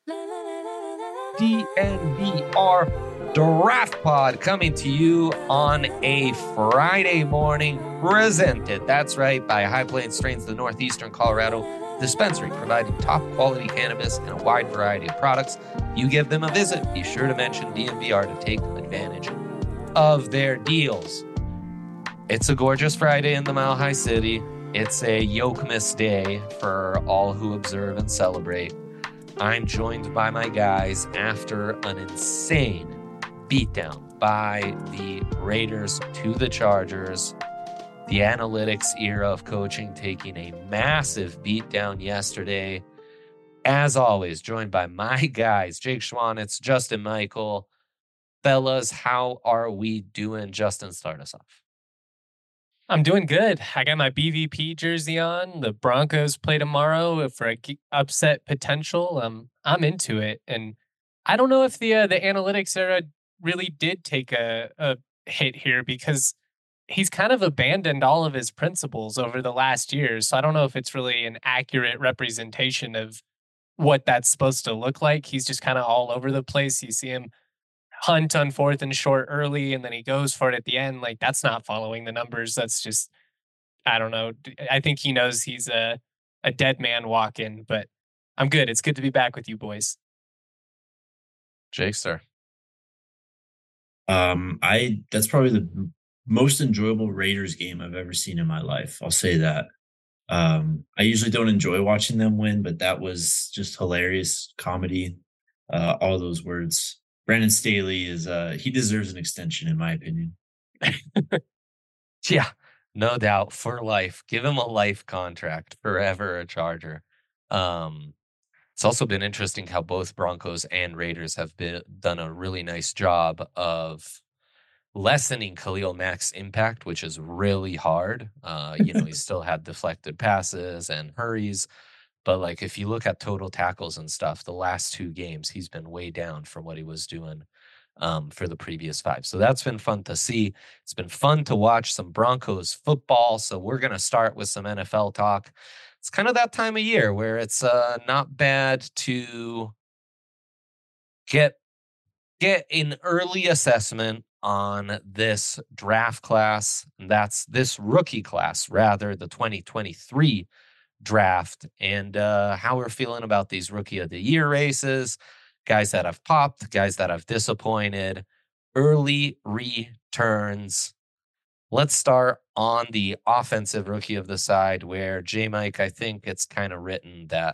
DNVR Draft Pod coming to you on a Friday morning, presented, that's right, by High Plains Strains, the Northeastern Colorado dispensary, providing top quality cannabis and a wide variety of products. If you give them a visit, be sure to mention DNVR to take advantage of their deals. It's a gorgeous Friday in the Mile High City. It's a Yokemas day for all who observe and celebrate. I'm joined by my guys after an insane beatdown by the Raiders to the Chargers. The analytics era of coaching taking a massive beatdown yesterday. As always, joined by my guys, Jake Schwanitz, Justin Michael. Fellas, how are we doing? Justin, start us off. I'm doing good. I got my BVP jersey on. The Broncos play tomorrow for a upset potential. I'm into it, and I don't know if the analytics era really did take a hit here because he's kind of abandoned all of his principles over the last year. So I don't know if it's really an accurate representation of what that's supposed to look like. He's just kind of all over the place. You see him hunt on 4th and short early, and then he goes for it at the end. Like, that's not following the numbers. That's just, I don't know. I think he knows he's a dead man walking, but I'm good. It's good to be back with you boys. Jake, sir. That's probably the most enjoyable Raiders game I've ever seen in my life. I'll say that. I usually don't enjoy watching them win, but that was just hilarious comedy. All those words. Brandon Staley he deserves an extension, in my opinion. Yeah, no doubt, for life. Give him a life contract, forever a Charger. It's also been interesting how both Broncos and Raiders have done a really nice job of lessening Khalil Mack's impact, which is really hard. He still had deflected passes and hurries. But like, if you look at total tackles and stuff, the last 2 games, he's been way down from what he was doing for the previous 5. So that's been fun to see. It's been fun to watch some Broncos football. So we're going to start with some NFL talk. It's kind of that time of year where it's not bad to get an early assessment on this draft class. And that's this rookie class, rather, the 2023 draft, and how we're feeling about these rookie of the year races, guys that have popped, guys that have disappointed, early returns. Let's start on the offensive rookie of the side, where J-Mike, I think it's kind of written that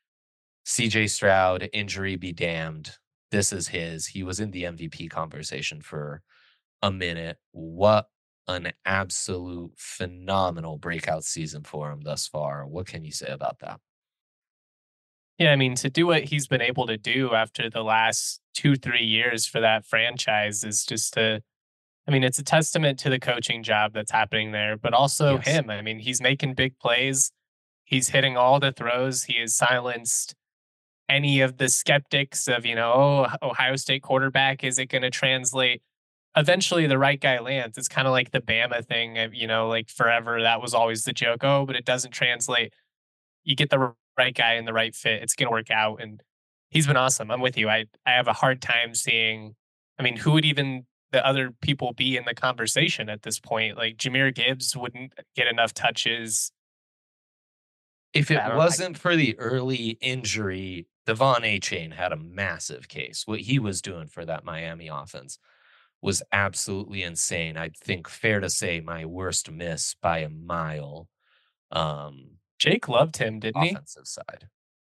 CJ Stroud, injury be damned, this is his. He was in the MVP conversation for a minute. What an absolute phenomenal breakout season for him thus far. What can you say about that? Yeah, I mean, to do what he's been able to do after the last 2-3 years for that franchise is just it's a testament to the coaching job that's happening there, but also him. I mean, he's making big plays. He's hitting all the throws. He has silenced any of the skeptics of, Ohio State quarterback, is it going to translate? Eventually the right guy lands. It's kind of like the Bama thing, like forever. That was always the joke. Oh, but it doesn't translate. You get the right guy in the right fit, it's going to work out. And he's been awesome. I'm with you. I have a hard time seeing, who would even the other people be in the conversation at this point? Like Jahmyr Gibbs wouldn't get enough touches. If it wasn't for the early injury, Devon Achane had a massive case. What he was doing for that Miami offense was absolutely insane. I think fair to say my worst miss by a mile. Jake loved him, didn't he? Offensive side.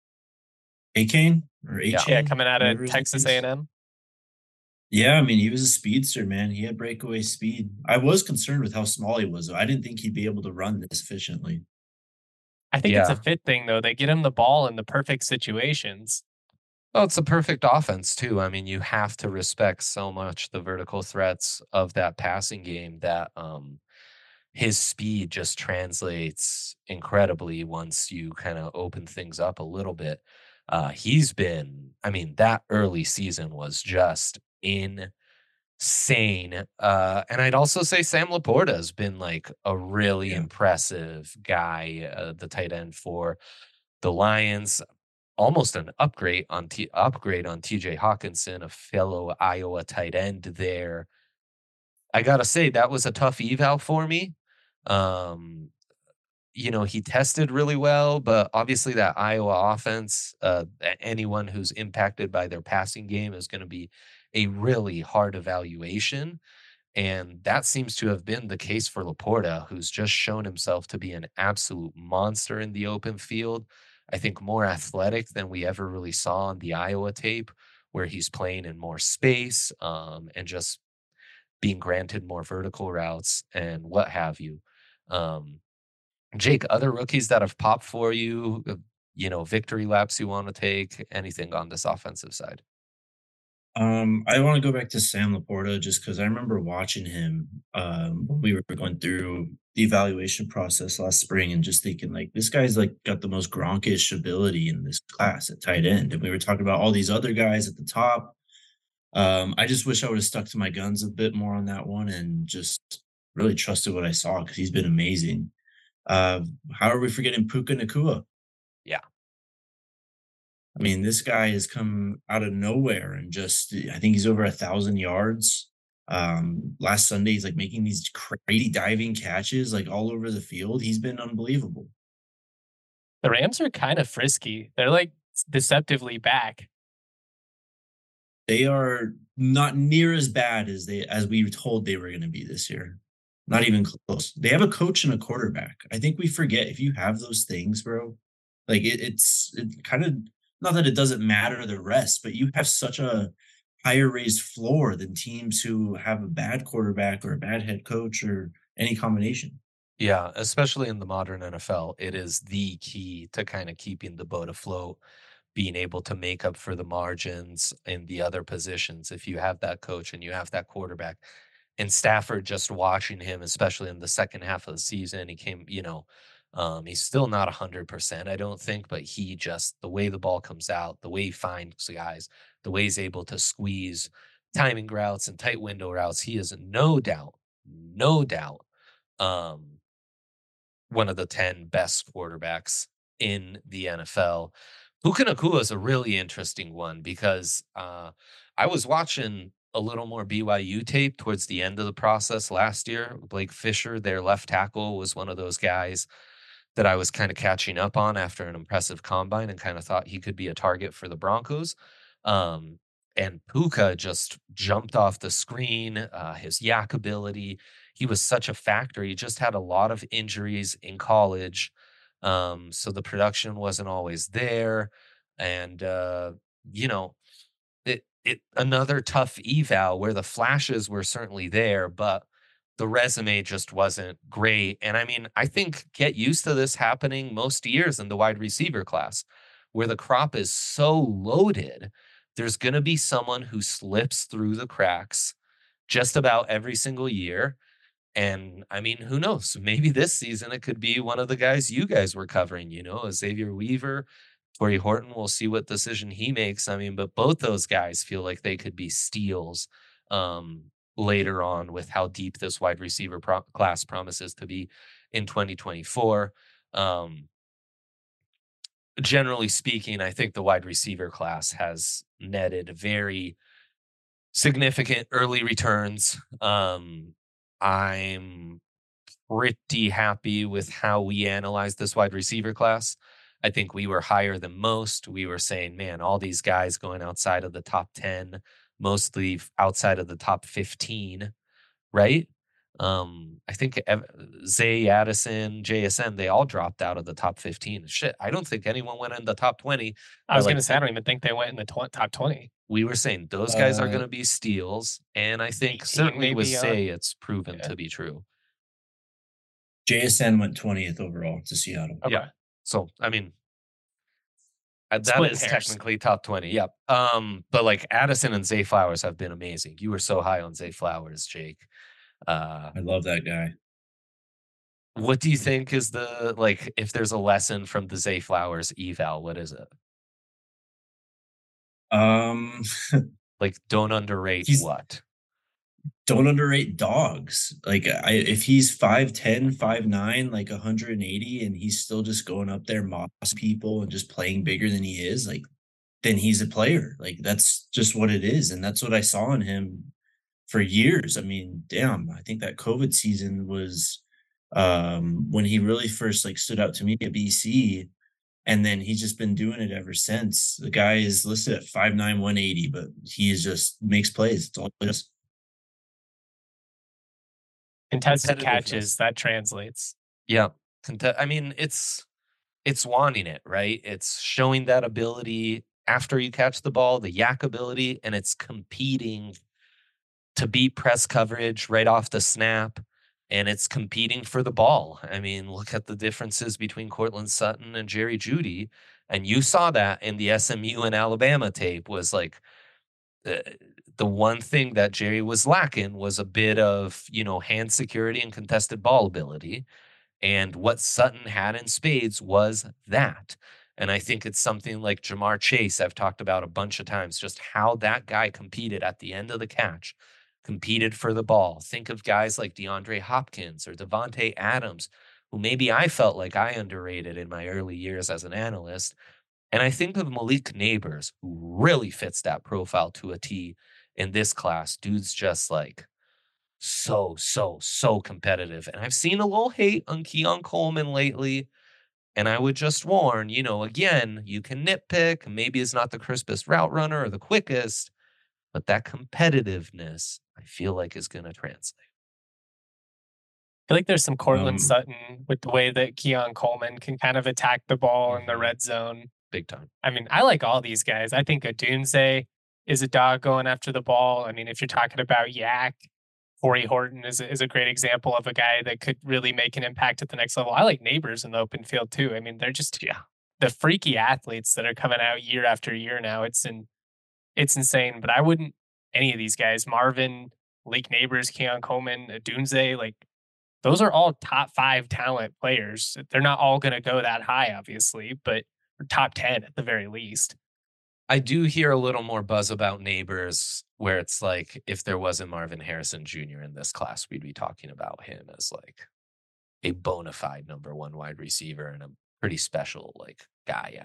Achane or Achane? Yeah, coming out of Texas A&M. Yeah, he was a speedster, man. He had breakaway speed. I was concerned with how small he was, though. I didn't think he'd be able to run this efficiently. I think it's a fit thing, though. They get him the ball in the perfect situations. Well, it's a perfect offense, too. You have to respect so much the vertical threats of that passing game that his speed just translates incredibly once you kind of open things up a little bit. He's been, that early season was just insane. And I'd also say Sam Laporta has been like a really impressive guy, the tight end for the Lions. almost an upgrade on TJ Hawkinson, a fellow Iowa tight end there. I gotta say that was a tough eval for me. Um, he tested really well, but obviously that Iowa offense, anyone who's impacted by their passing game is going to be a really hard evaluation. And that seems to have been the case for Laporta, who's just shown himself to be an absolute monster in the open field. I think more athletic than we ever really saw on the Iowa tape, where he's playing in more space and just being granted more vertical routes and what have you. Um, Jake, other rookies that have popped for you, victory laps you want to take, anything on this offensive side? I want to go back to Sam Laporta just because I remember watching him when we were going through the evaluation process last spring and just thinking like this guy's like got the most Gronkish ability in this class at tight end. And we were talking about all these other guys at the top. I just wish I would have stuck to my guns a bit more on that one and just really trusted what I saw because he's been amazing. Uh, how are we forgetting Puka Nakua? Yeah. I mean, this guy has come out of nowhere and just I think he's over 1,000 yards. Last Sunday, he's like making these crazy diving catches like all over the field. He's been unbelievable. The Rams are kind of frisky. They're like deceptively back. They are not near as bad as we were told they were going to be this year. Not even close. They have a coach and a quarterback. I think we forget if you have those things, bro. Like it kind of not that it doesn't matter the rest, but you have such a higher raised floor than teams who have a bad quarterback or a bad head coach or any combination. Yeah, especially in the modern NFL, it is the key to kind of keeping the boat afloat, being able to make up for the margins in the other positions. If you have that coach and you have that quarterback, and Stafford, just watching him, especially in the second half of the season, he came, he's still not 100%, I don't think, but he just, the way the ball comes out, the way he finds the guys, the way he's able to squeeze timing routes and tight window routes, he is no doubt, um, one of the 10 best quarterbacks in the NFL. Puka Nacua is a really interesting one because I was watching a little more BYU tape towards the end of the process last year. Blake Fisher, their left tackle, was one of those guys that I was kind of catching up on after an impressive combine and kind of thought he could be a target for the Broncos. Um, and Puka just jumped off the screen. His yak ability, he was such a factor. He just had a lot of injuries in college, so the production wasn't always there. And you know, it another tough eval where the flashes were certainly there, but the resume just wasn't great. And I mean, I think get used to this happening most years in the wide receiver class, where the crop is so loaded. There's going to be someone who slips through the cracks just about every single year. And I mean, who knows? Maybe this season it could be one of the guys you guys were covering, Xavier Weaver, Torrey Horton. We'll see what decision he makes. I mean, but both those guys feel like they could be steals later on with how deep this wide receiver class promises to be in 2024. Generally speaking, I think the wide receiver class has netted very significant early returns. I'm pretty happy with how we analyzed this wide receiver class. I think we were higher than most. We were saying, man, all these guys going outside of the top 10, mostly outside of the top 15, right? I think Zay, Addison, JSN, they all dropped out of the top 15. Shit, I don't think anyone went in the top 20. I was going to say, I don't even think they went in the top 20. We were saying those guys are going to be steals. And I think certainly with Zay, it's proven to be true. JSN went 20th overall to Seattle. Okay. Yeah. So, I mean, that is technically top 20. Yep. But like Addison and Zay Flowers have been amazing. You were so high on Zay Flowers, Jake. I love that guy. What do you think is if there's a lesson from the Zay Flowers eval, what is it? Like, don't underrate what? don't underrate dogs. Like if he's 5'10", 5'9", like 180, and he's still just going up there moss people and just playing bigger than he is, like then he's a player. Like that's just what it is. And that's what I saw in him for years. I mean, damn, I think that COVID season was when he really first like stood out to me at BC. And then he's just been doing it ever since. The guy is listed at 5'9", 180, but he is just makes plays. It's all he does. Contested Competitiveness. catches, that translates. Yeah. I mean, it's wanting it, right? It's showing that ability after you catch the ball, the yak ability, and it's competing to beat press coverage right off the snap. And it's competing for the ball. I mean, look at the differences between Cortland Sutton and Jerry Jeudy. And you saw that in the SMU and Alabama tape was like uh, the one thing that Jerry was lacking was a bit of, hand security and contested ball ability. And what Sutton had in spades was that. And I think it's something like Jamar Chase, I've talked about a bunch of times, just how that guy competed at the end of the catch, competed for the ball. Think of guys like DeAndre Hopkins or Devontae Adams, who maybe I felt like I underrated in my early years as an analyst. And I think of Malik Neighbors, who really fits that profile to a T in this class. Dude's just like so competitive. And I've seen a little hate on Keon Coleman lately. And I would just warn, again, you can nitpick. Maybe it's not the crispest route runner or the quickest, but that competitiveness, I feel like, is going to translate. I feel like there's some Cortland Um, Sutton with the way that Keon Coleman can kind of attack the ball in the Mhm. red zone. Big time. I mean, I like all these guys. I think Odunze is a dog going after the ball. I mean, if you're talking about Yak, Corey Horton is a great example of a guy that could really make an impact at the next level. I like Neighbors in the open field too. I mean, they're just Yeah. the freaky athletes that are coming out year after year now. It's insane. But I wouldn't any of these guys, Marvin, Lake Neighbors, Keon Coleman, Dunze, like those are all top 5 talent players. They're not all going to go that high, obviously, but top 10 at the very least. I do hear a little more buzz about Neighbors, where it's like if there wasn't Marvin Harrison Jr. in this class, we'd be talking about him as like a bona fide number one wide receiver and a pretty special like guy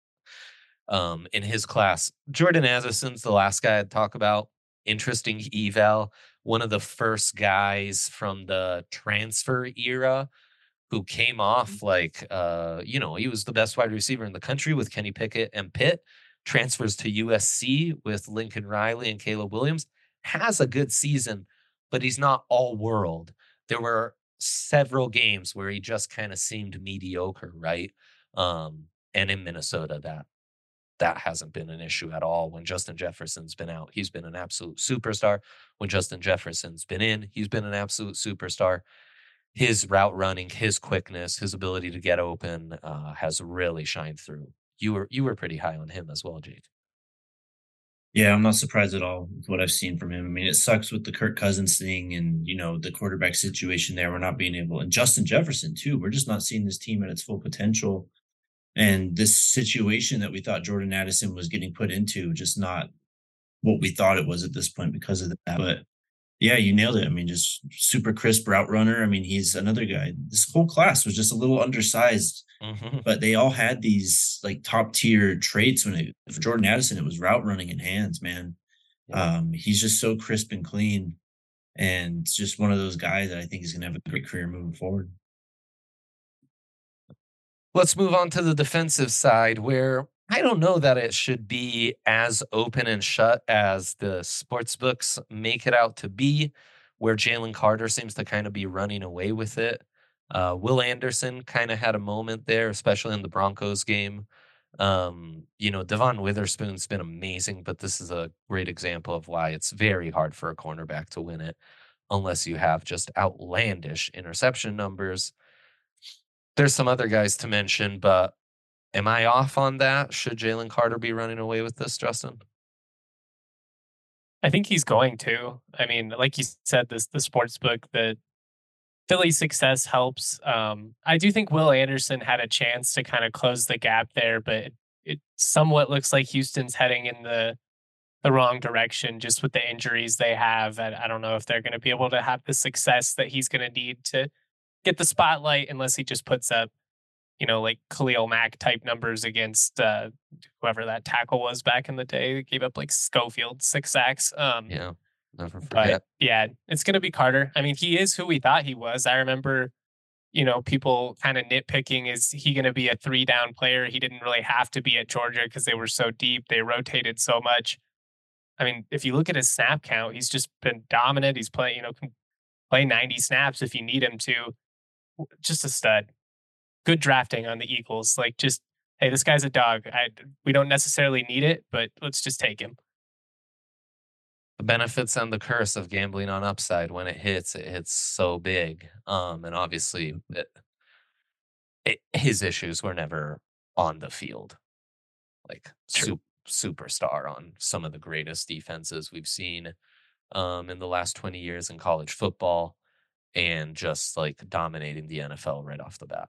in his class. Jordan Addison's the last guy I'd talk about. Interesting eval. One of the first guys from the transfer era who came off like he was the best wide receiver in the country with Kenny Pickett and Pitt, transfers to USC with Lincoln Riley and Caleb Williams, has a good season, but he's not all world. There were several games where he just kind of seemed mediocre, right? And in Minnesota, that hasn't been an issue at all. When Justin Jefferson's been out, he's been an absolute superstar. When Justin Jefferson's been in, he's been an absolute superstar. His route running, his quickness, his ability to get open has really shined through. You were pretty high on him as well, Jake. Yeah, I'm not surprised at all with what I've seen from him. I mean, it sucks with the Kirk Cousins thing and, the quarterback situation there. We're not being able, and Justin Jefferson too. We're just not seeing this team at its full potential. And this situation that we thought Jordan Addison was getting put into, just not what we thought it was at this point because of that. But yeah, you nailed it. I mean, just super crisp route runner. I mean, he's another guy. This whole class was just a little undersized, Mm-hmm. but they all had these like top tier traits. For Jordan Addison, it was route running and hands, man. Yeah. He's just so crisp and clean, and just one of those guys that I think is going to have a great career moving forward. Let's move on to the defensive side, where I don't know that it should be as open and shut as the sports books make it out to be, where Jalen Carter seems to kind of be running away with it. Will Anderson kind of had a moment there, especially in the Broncos game. Devon Witherspoon's been amazing, but this is a great example of why it's very hard for a cornerback to win it unless you have just outlandish interception numbers. There's some other guys to mention, but am I off on that? Should Jalen Carter be running away with this, Justin? I think he's going to. I mean, like you said, the sports book, the Philly success helps. I do think Will Anderson had a chance to kind of close the gap there, but it somewhat looks like Houston's heading in the the wrong direction just with the injuries they have. I don't know if they're going to be able to have the success that he's going to need to get the spotlight unless he just puts up, like Khalil Mack type numbers against whoever that tackle was back in the day. He gave up like Schofield 6 sacks. Yeah, never But forget. yeah, it's going to be Carter. I mean, he is who we thought he was. I remember, people kind of nitpicking, is he going to be a 3 down player? He didn't really have to be at Georgia because they were so deep. They rotated so much. I mean, if you look at his snap count, he's just been dominant. He's playing, can play 90 snaps if you need him to. Just a stud. Good drafting on the Eagles. Like, just, hey, this guy's a dog. We don't necessarily need it, but let's just take him. The benefits and the curse of gambling on upside. When it hits so big. And obviously his issues were never on the field. Like superstar on some of the greatest defenses we've seen in the last 20 years in college football, and just like dominating the NFL right off the bat.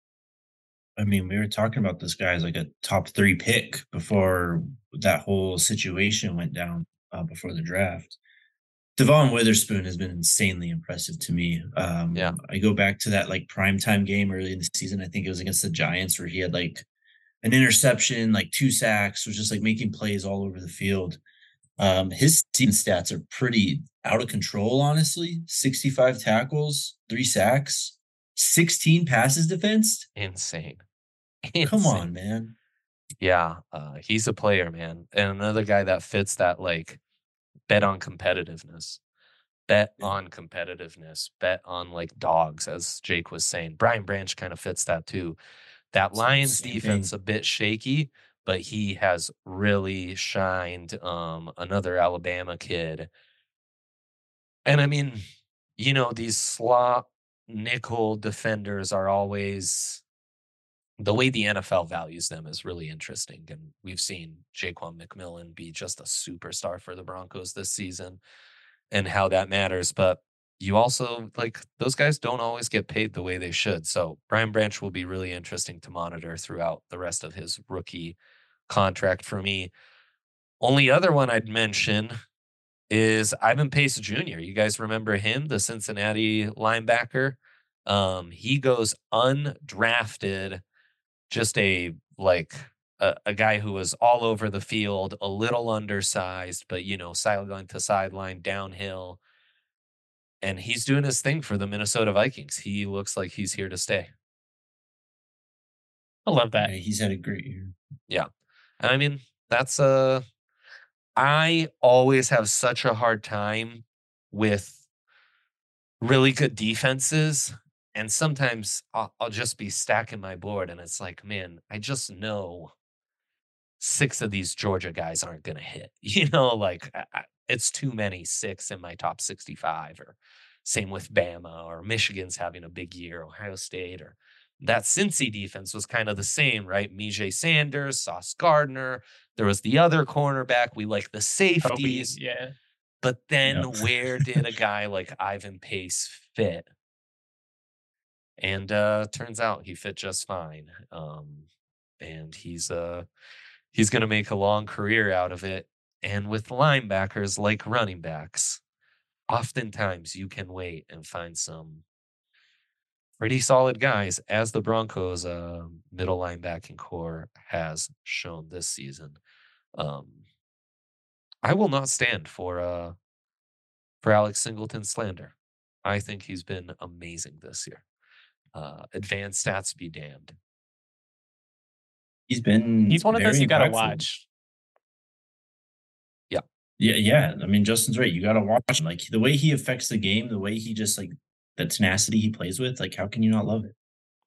I mean, we were talking about this guy as like a top 3 pick before that whole situation went down before the draft. Devon Witherspoon has been insanely impressive to me. Yeah. I go back to that like primetime game early in the season. I think it was against the Giants where he had like an interception, like 2 sacks, was just like making plays all over the field. His season stats are pretty out of control, honestly. 65 tackles, 3 sacks, 16 passes defensed. Insane. Come on, man. Yeah, he's a player, man. And another guy that fits that, like, bet on competitiveness. Bet on competitiveness. Bet on, like, dogs, as Jake was saying. Brian Branch kind of fits that too. That Lions defense a bit shaky, but he has really shined. Another Alabama kid. And I mean, these slot nickel defenders are always, the way the NFL values them is really interesting. And we've seen Jaquan McMillan be just a superstar for the Broncos this season and how that matters. But you also, like, those guys don't always get paid the way they should. So Brian Branch will be really interesting to monitor throughout the rest of his rookie contract for me. Only other one I'd mention is Ivan Pace Jr. You guys remember him, the Cincinnati linebacker? He goes undrafted, just a guy who was all over the field, a little undersized, but sideline to sideline, downhill. And he's doing his thing for the Minnesota Vikings. He looks like he's here to stay. I love that. Yeah, he's had a great year. Yeah. And I mean, that's I always have such a hard time with really good defenses. And sometimes I'll just be stacking my board and it's like, man, I just know 6 of these Georgia guys aren't going to hit. It's too many 6 in my top 65, or same with Bama, or Michigan's having a big year, Ohio State, or that Cincy defense was kind of the same, right? Mijay Sanders, Sauce Gardner. There was the other cornerback. We like the safeties. Yeah. But then where did a guy like Ivan Pace fit? And turns out he fit just fine. And he's going to make a long career out of it. And with linebackers like running backs, oftentimes you can wait and find some pretty solid guys, as the Broncos middle linebacking core has shown this season. I will not stand for Alex Singleton slander. I think he's been amazing this year. Advanced stats be damned. He's one of those you got to watch. Yeah. Yeah. I mean, Justin's right. You got to watch him. Like, the way he affects the game, the way he just, like, the tenacity he plays with, like, how can you not love it?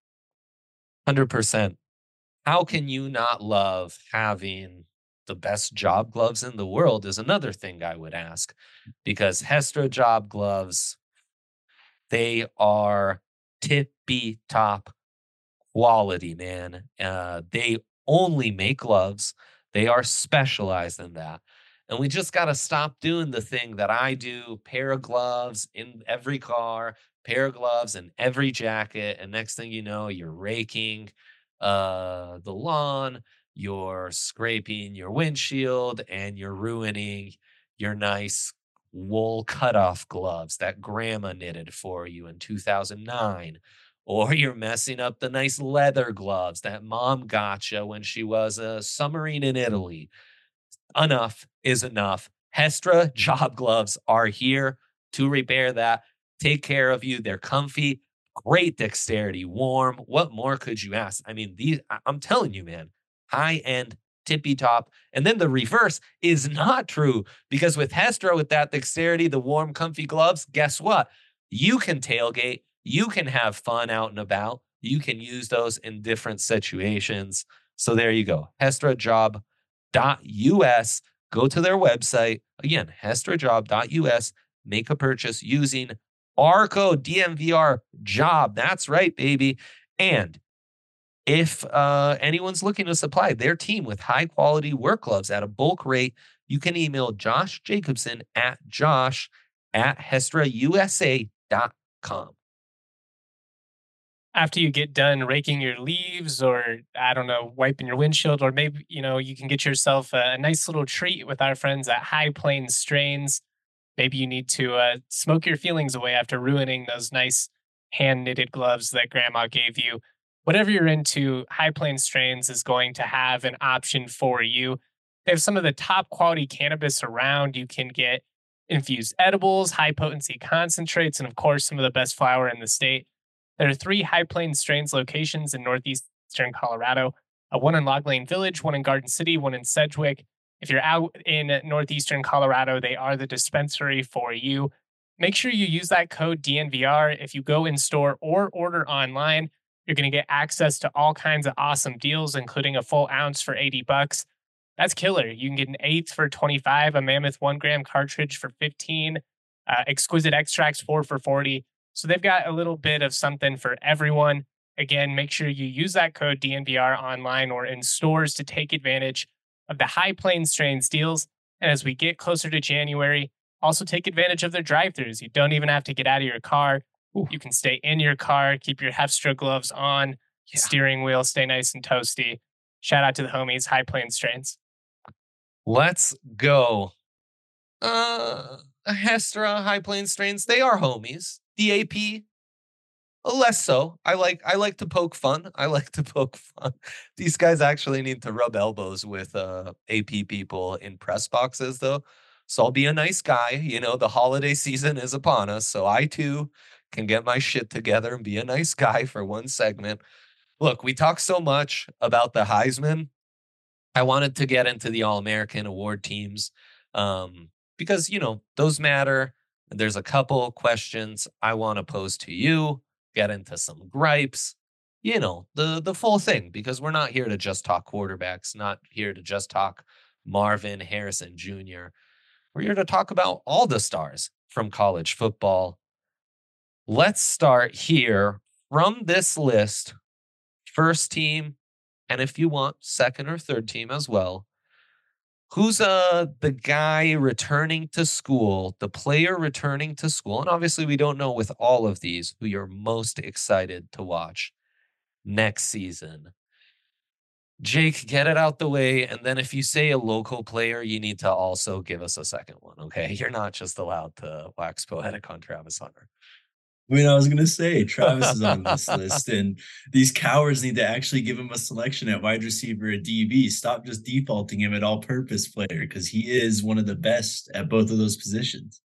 100%. How can you not love having the best job gloves in the world is another thing I would ask, because Hestra job gloves, they are tippy top quality, man. They only make gloves. They are specialized in that. And we just got to stop doing the thing that I do: pair of gloves in every car, pair of gloves in every jacket. And next thing you know, you're raking the lawn, you're scraping your windshield, and you're ruining your nice wool cutoff gloves that grandma knitted for you in 2009. Or you're messing up the nice leather gloves that mom got you when she was a submarine in Italy. Enough is enough. Hestra job gloves are here to repair that, take care of you. They're comfy, great dexterity, warm. What more could you ask? I mean, I'm telling you, man, high end, tippy top. And then the reverse is not true because with Hestra, with that dexterity, the warm, comfy gloves, guess what? You can tailgate, you can have fun out and about. You can use those in different situations. So there you go. Hestra job hestrajob.us. Go to their website. Again, hestrajob.us. Make a purchase using our code DMVR job. That's right, baby. And if anyone's looking to supply their team with high quality work gloves at a bulk rate, you can email Josh Jacobson at josh@hestrausa.com. After you get done raking your leaves, or I don't know, wiping your windshield, or maybe, you can get yourself a nice little treat with our friends at High Plains Strains. Maybe you need to smoke your feelings away after ruining those nice hand knitted gloves that grandma gave you. Whatever you're into, High Plains Strains is going to have an option for you. They have some of the top quality cannabis around. You can get infused edibles, high potency concentrates, and of course, some of the best flower in the state. There are 3 High Plains Strains locations in northeastern Colorado, one in Log Lane Village, one in Garden City, one in Sedgwick. If you're out in northeastern Colorado, they are the dispensary for you. Make sure you use that code DNVR. If you go in store or order online, you're going to get access to all kinds of awesome deals, including a full ounce for $80. That's killer. You can get an eighth for 25, a Mammoth 1 gram cartridge for 15, exquisite extracts 4 for 40. So they've got a little bit of something for everyone. Again, make sure you use that code DNVR online or in stores to take advantage of the High Plains Strains deals. And as we get closer to January, also take advantage of their drive-thrus. You don't even have to get out of your car. Ooh. You can stay in your car, keep your Hefstra gloves on, steering wheel, stay nice and toasty. Shout out to the homies, High Plains Strains. Let's go. Hestra, High Plains Strains, they are homies. The AP, less so. I like to poke fun. These guys actually need to rub elbows with AP people in press boxes, though. So I'll be a nice guy. The holiday season is upon us, so I too can get my shit together and be a nice guy for one segment. Look, we talk so much about the Heisman. I wanted to get into the All-American award teams because, those matter. There's a couple questions I want to pose to you, get into some gripes, the full thing, because we're not here to just talk quarterbacks, not here to just talk Marvin Harrison Jr. We're here to talk about all the stars from college football. Let's start here from this list. First team, and if you want, second or third team as well. Who's the guy returning to school, the player returning to school? And obviously, we don't know with all of these who you're most excited to watch next season. Jake, get it out the way. And then if you say a local player, you need to also give us a second one, okay? You're not just allowed to wax poetic on Travis Hunter. I was going to say Travis is on this list, and these cowards need to actually give him a selection at wide receiver at DB. Stop just defaulting him at all-purpose player, because he is one of the best at both of those positions.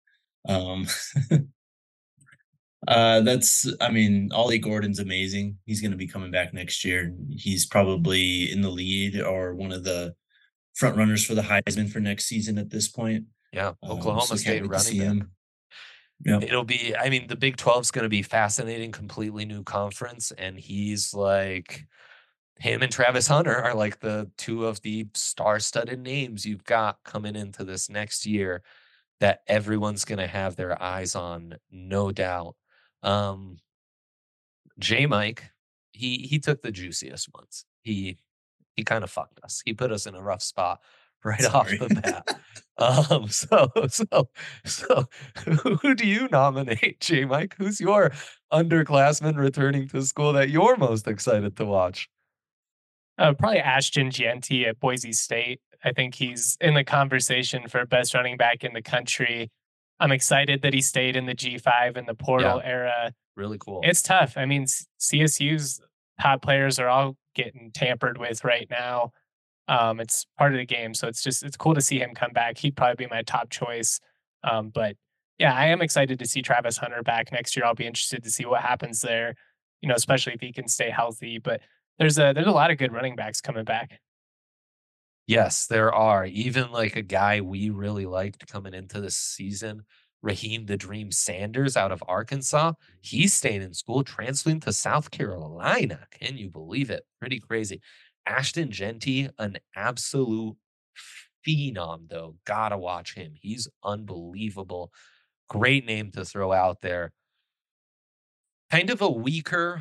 Ollie Gordon's amazing. He's going to be coming back next year. He's probably in the lead or one of the front runners for the Heisman for next season at this point. Yeah, Oklahoma State running back. Yeah. It'll be, the Big 12 is going to be fascinating, completely new conference. And he's like, him and Travis Hunter are like the two of the star-studded names you've got coming into this next year that everyone's going to have their eyes on, no doubt. J. Mike, he took the juiciest ones. He kind of fucked us. He put us in a rough spot right off the bat. So who do you nominate, J. Mike? Who's your underclassman returning to school that you're most excited to watch? Probably Ashton Jeanty at Boise State. I think he's in the conversation for best running back in the country. I'm excited that he stayed in the G5 in the Yeah, portal era. really cool. It's tough. I mean, CSU's top players are all getting tampered with right now. It's part of the game, so it's cool to see him come back. He'd probably be my top choice. But yeah, I am excited to see Travis Hunter back next year. I'll be interested to see what happens there. Especially if he can stay healthy. But there's a lot of good running backs coming back. Yes, there are. Even like a guy we really liked coming into this season, Raheem the Dream Sanders out of Arkansas. He's staying in school, transferring to South Carolina. Can you believe it? Pretty crazy. Ashton Genty, an absolute phenom, though. Gotta watch him. He's unbelievable. Great name to throw out there. Kind of a weaker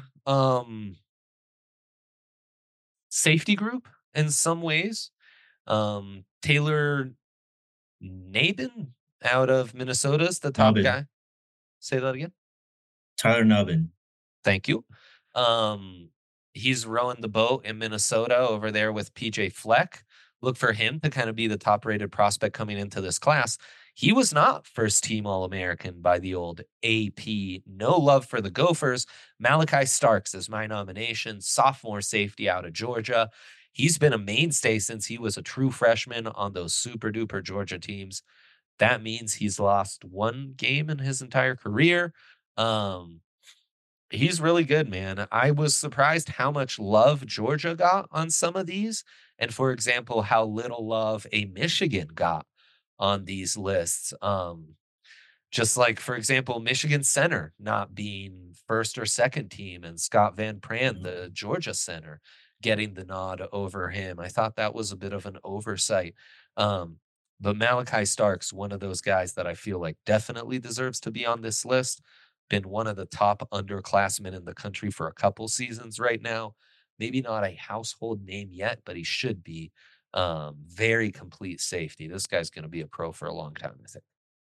safety group in some ways. Taylor Nabin out of Minnesota is the top Nubbin. guy. Say that again. Tyler Nubbin. Thank you. He's rowing the boat in Minnesota over there with PJ Fleck. Look for him to kind of be the top rated prospect coming into this class. He was not first team All American by the old AP. No love for the Gophers. Malachi Starks is my nomination, sophomore safety out of Georgia. He's been a mainstay since he was a true freshman on those super duper Georgia teams. That means he's lost one game in his entire career. He's really good, man. I was surprised how much love Georgia got on some of these. And for example, how little love a Michigan got on these lists. Just like, for example, Michigan center not being first or second team and Scott Van Pran, the Georgia center, getting the nod over him. I thought that was a bit of an oversight. But Malachi Starks, one of those guys that I feel like definitely deserves to be on this list. Been one of the top underclassmen in the country for a couple seasons right now. Maybe not a household name yet, but he should be. Very complete safety. This guy's going to be a pro for a long time, I think.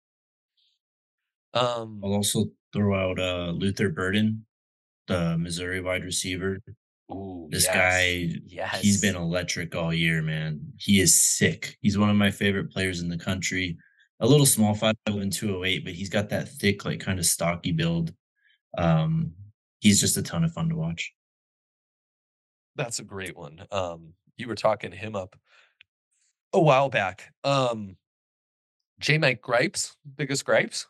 I'll also throw out Luther Burden, the Missouri wide receiver. Ooh, This yes. guy, Yes. he's been electric all year, man. He is sick. He's one of my favorite players in the country. A little small, 5'11", 208, but he's got that thick, like kind of stocky build. He's just a ton of fun to watch. That's a great one. You were talking him up a while back. J. Mike Gripes, biggest gripes.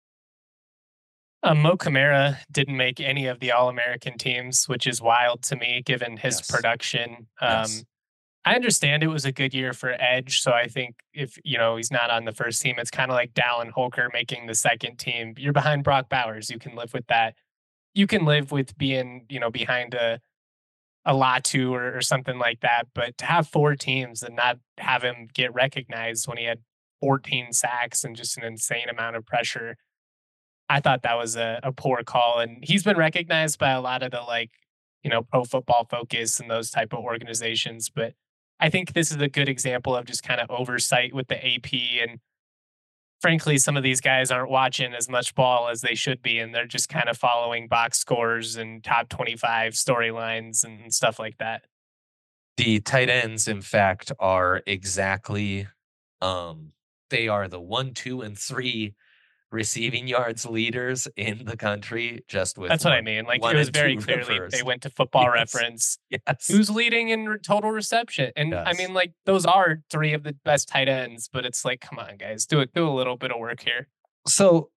Mo Camara didn't make any of the All American teams, which is wild to me given his Yes. production. Yes. I understand it was a good year for Edge, so I think if he's not on the first team, it's kind of like Dallin Holker making the second team. You're behind Brock Bowers. You can live with that. You can live with being behind a Latu or something like that. But to have four teams and not have him get recognized when he had 14 sacks and just an insane amount of pressure, I thought that was a poor call. And he's been recognized by a lot of the Pro Football Focus and those type of organizations. But I think this is a good example of just kind of oversight with the AP. And frankly, some of these guys aren't watching as much ball as they should be. And they're just kind of following box scores and top 25 storylines and stuff like that. The tight ends, in fact, are exactly, they are the 1, 2, and 3 receiving yards leaders in the country. Just with That's what I mean. Like it was very clearly they went to Football Yes. Reference. Yes. Who's leading in total reception? And I Yes. mean, like those are three of the best tight ends, but it's like, come on, guys, do a little bit of work here. So,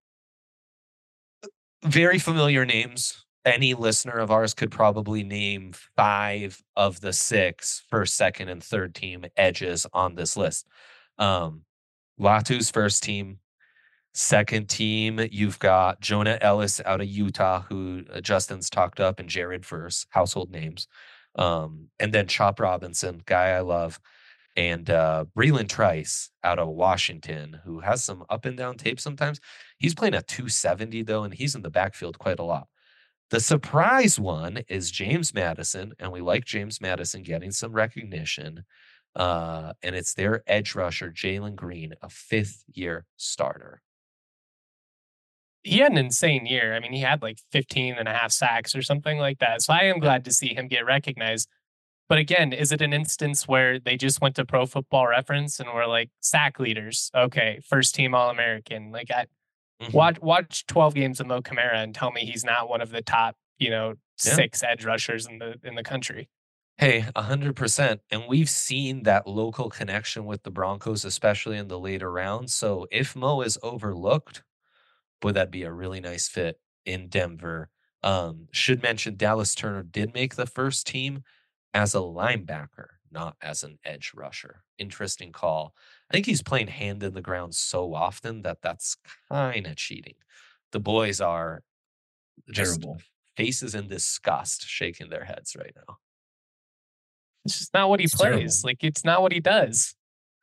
very familiar names. Any listener of ours could probably name 5 of the 6 first, second, and third team edges on this list. Latu's first team. Second team, you've got Jonah Ellis out of Utah, who Justin's talked up, and Jared Verse, household names. And then Chop Robinson, guy I love, and Breland Trice out of Washington, who has some up and down tape sometimes. He's playing at 270, though, and he's in the backfield quite a lot. The surprise one is James Madison, and we like James Madison getting some recognition. And it's their edge rusher, Jalen Green, a 5th-year starter. He had an insane year. I mean, he had like 15 and a half sacks or something like that. So I am glad to see him get recognized. But again, is it an instance where they just went to Pro Football Reference and were like sack leaders? Okay, first team All American. Like I Mhm. watch 12 games of Mo Kamara and tell me he's not one of the top, Yeah. 6 edge rushers in the country. Hey, 100%. And we've seen that local connection with the Broncos, especially in the later rounds. So if Mo is overlooked, would that be a really nice fit in Denver? Should mention Dallas Turner did make the first team as a linebacker, not as an edge rusher. Interesting call. I think he's playing hand in the ground so often that that's kind of cheating. The boys are just Terrible. faces in disgust shaking their heads right now. It's just not what he It's terrible. plays. Like it's not what he does.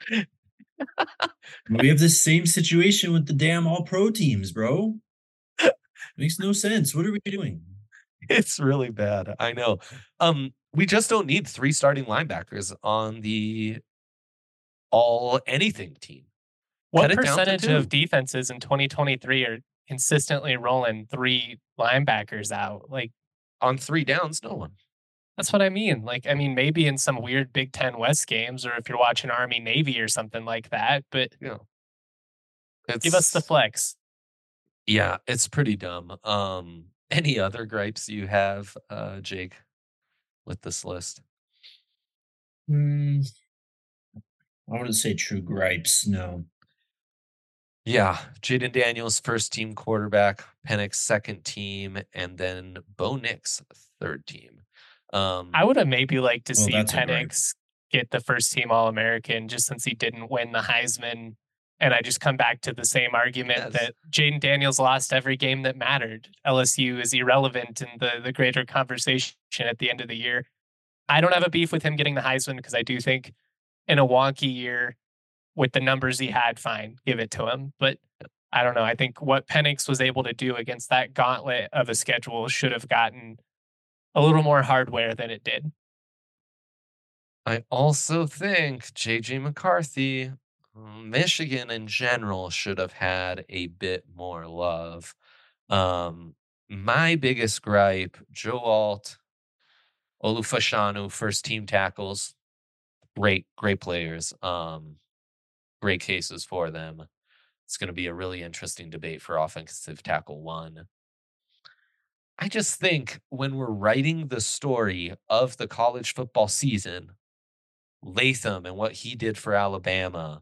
We have this same situation with the damn all pro teams, bro. Makes no sense. What are we doing? It's really bad. I know. We just don't need 3 starting linebackers on the all anything team. What Cut it down to percentage of 2 defenses in 2023 are consistently rolling 3 linebackers out? Like on 3 downs, no one. that's what I mean. Like I mean maybe in some weird Big 10 West games or if you're watching Army Navy or something like that, but You know, give us the it's flex. yeah, it's pretty dumb. Any other gripes you have, Jake, with this list? Hmm, I wouldn't say true gripes. No. Yeah, Jaden Daniels, first team quarterback, Penix second team, and then Bo Nix third team. I would have maybe liked to Well, see that's a gripe. Penix get the first team All American just since he didn't win the Heisman. And I just come back to the same argument Yes. that Jaden Daniels lost every game that mattered. LSU is irrelevant in the greater conversation at the end of the year. I don't have a beef with him getting the Heisman because I do think in a wonky year with the numbers he had, fine, give it to him. But I don't know. I think what Penix was able to do against that gauntlet of a schedule should have gotten a little more hardware than it did. I also think JJ McCarthy, Michigan in general should have had a bit more love. Um, my biggest gripe, Joe Alt, Olufashanu, first team tackles, great players. Great cases for them. It's going to be a really interesting debate for offensive tackle one. I just think when we're writing the story of the college football season, Latham and what he did for Alabama,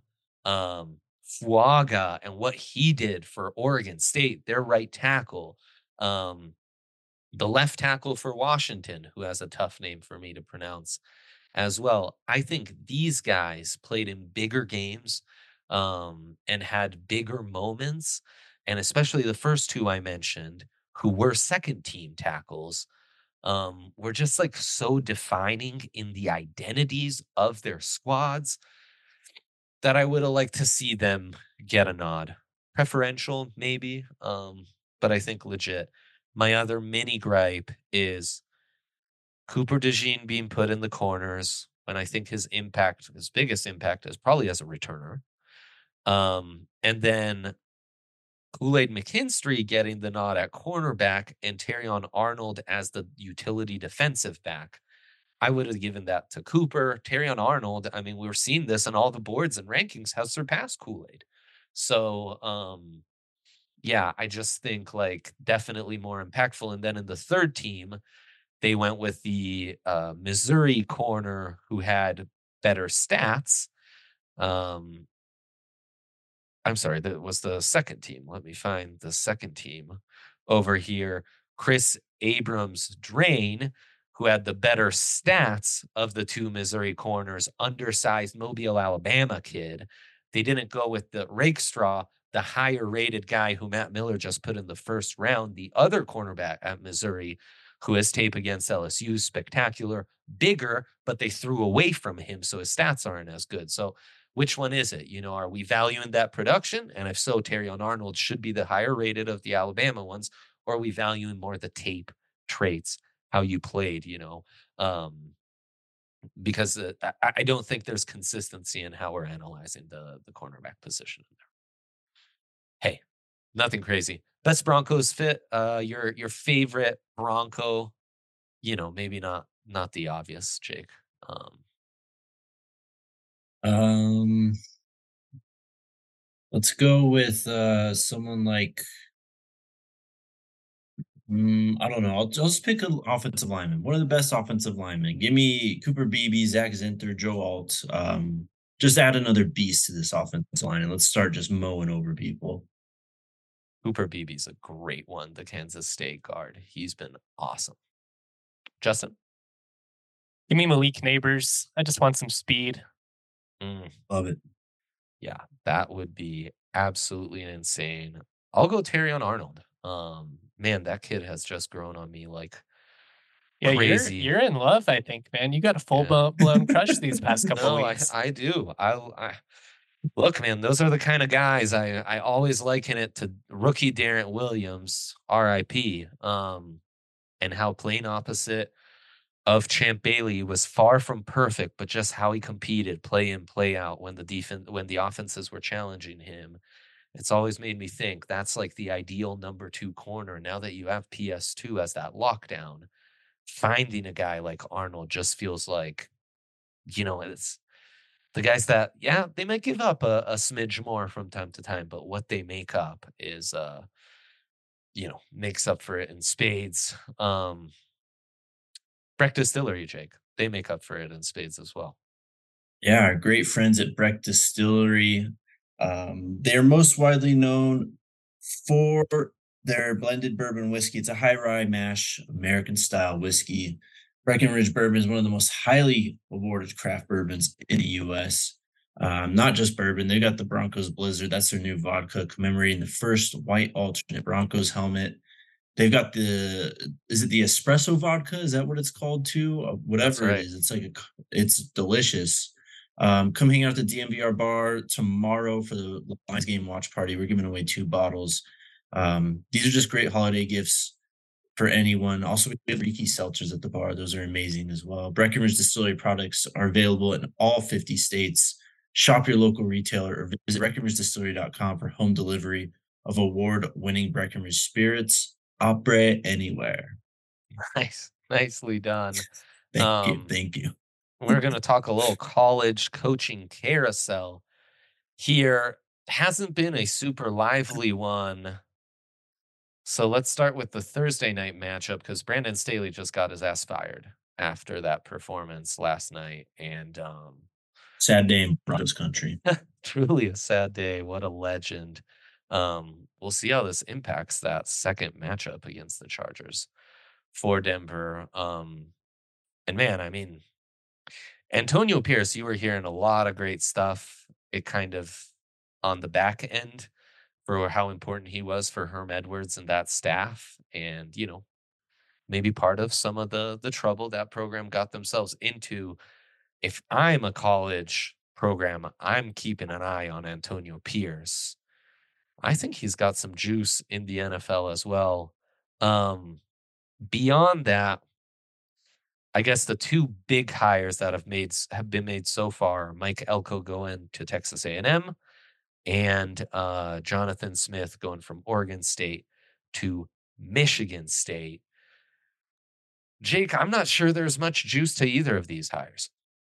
Fuaga and what he did for Oregon State, their right tackle, um, the left tackle for Washington, who has a tough name for me to pronounce as well. I think these guys played in bigger games and had bigger moments, and especially the first two I mentioned, who were second team tackles, were just like so defining in the identities of their squads that I would have liked to see them get a nod. Preferential, maybe, but I think legit. My other mini gripe is Cooper DeJean being put in the corners when I think his impact, his biggest impact, is probably as a returner. And then Kool-Aid McKinstry getting the nod at cornerback and Terrion Arnold as the utility defensive back. I would have given that to Cooper. Terrion Arnold, I mean, we were seeing this on all the boards and rankings, has surpassed Kool-Aid. So, yeah, I just think like definitely more impactful. And then in the third team, they went with the Missouri corner who had better stats. Um, I'm sorry, that was the second team. Let me find the second team over here. Chris Abrams Drain, who had the better stats of the two Missouri corners, undersized Mobile, Alabama kid. They didn't go with the Rakestraw, the higher rated guy who Matt Miller just put in the first round, the other cornerback at Missouri, who has tape against LSU, spectacular, bigger, but they threw away from him, so his stats aren't as good. So which one is it? You know, are we valuing that production? And if so, Terrion Arnold should be the higher rated of the Alabama ones, or are we valuing more the tape traits, how you played, Um, because I don't think there's consistency in how we're analyzing the cornerback position in there. Hey, nothing crazy. Best Broncos fit, your favorite Bronco, maybe not the obvious, Jake. Um, Um, let's go with someone like I don't know. I'll just pick an offensive lineman. One of the best offensive linemen. Give me Cooper Beebe, Zach Zinter, Joe Alt. Just add another beast to this offensive line, and let's start just mowing over people. Cooper Beebe's a great one, the Kansas State guard. He's been awesome. Justin? Give me Malik Neighbors. I just want some speed. Love it. Yeah, that would be absolutely insane. I'll go Terrion Arnold. Man, that kid has just grown on me like Yeah, crazy. you're in love, I think, man. You got a full Yeah. blown crush these past couple No, weeks. I do. I look, man, those are the kind of guys I always liken it to rookie Darren Williams, RIP. And how plain opposite of Champ Bailey was far from perfect, but just how he competed play in, play out when the offenses were challenging him. It's always made me think that's like the ideal number 2 corner. Now that you have PS2 as that lockdown, finding a guy like Arnold just feels like, it's the guys that, yeah, they might give up a smidge more from time to time, but what they make up is, makes up for it in spades. Breck Distillery, Jake, they make up for it in spades as well. Yeah, our great friends at Breck Distillery. They're most widely known for their blended bourbon whiskey. It's a high rye mash American style whiskey. Breckenridge Bourbon is one of the most highly awarded craft bourbons in the U.S. Not just bourbon, they got the Broncos Blizzard. That's their new vodka commemorating the first white alternate Broncos helmet. They've got is it the espresso vodka? Is that what it's called too? That's Whatever it right. is, it's delicious. Come hang out at the DMVR bar tomorrow for the Lions game watch party. We're giving away 2 bottles. These are just great holiday gifts for anyone. Also, we have Riki seltzers at the bar. Those are amazing as well. Breckenridge Distillery products are available in all 50 states. Shop your local retailer or visit breckenridgedistillery.com for home delivery of award-winning Breckenridge spirits. Opera anywhere. Nice. Nicely done. Thank you. Thank you. We're going to talk a little college coaching carousel here. Hasn't been a super lively one. So let's start with the Thursday night matchup because Brandon Staley just got his ass fired after that performance last night. And Sad day in Broncos country. truly a sad day. What a legend. We'll see how this impacts that second matchup against the Chargers for Denver. And man, I mean, Antonio Pierce, you were hearing a lot of great stuff. It kind of on the back end for how important he was for Herm Edwards and that staff. And, maybe part of some of the trouble that program got themselves into. If I'm a college program, I'm keeping an eye on Antonio Pierce. I think he's got some juice in the NFL as well. Beyond that, I guess the 2 big hires that have been made so far, Mike Elko going to Texas A&M and Jonathan Smith going from Oregon State to Michigan State. Jake, I'm not sure there's much juice to either of these hires.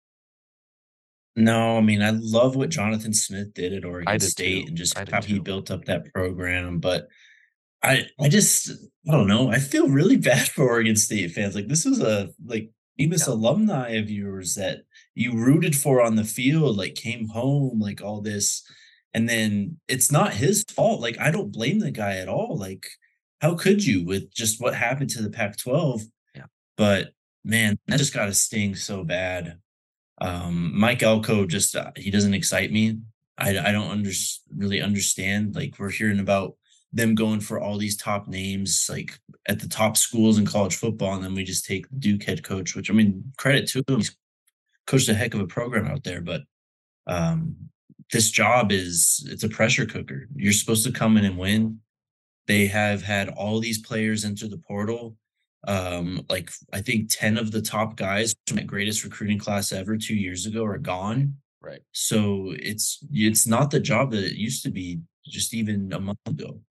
No, I mean, I love what Jonathan Smith did at I Oregon did State too. and just I did how he too. built up that program, but I don't know. I feel really bad for Oregon State fans. Like this was a famous Yeah. alumni of yours that you rooted for on the field, like came home, like all this, and then it's not his fault. Like I don't blame the guy at all. Like how could you with just what happened to the Pac-12? Yeah. But man, that just got to sting so bad. Mike Elko just he doesn't excite me. I don't really understand. Like we're hearing about them going for all these top names, like at the top schools in college football, and then we just take the Duke head coach, which I mean, credit to him, he's coached a heck of a program out there. But um, this job it's a pressure cooker. You're supposed to come in and win. They have had all these players enter the portal. Like I think 10 of the top guys from the greatest recruiting class ever 2 years ago are gone. Right. So it's not the job that it used to be just even a month ago.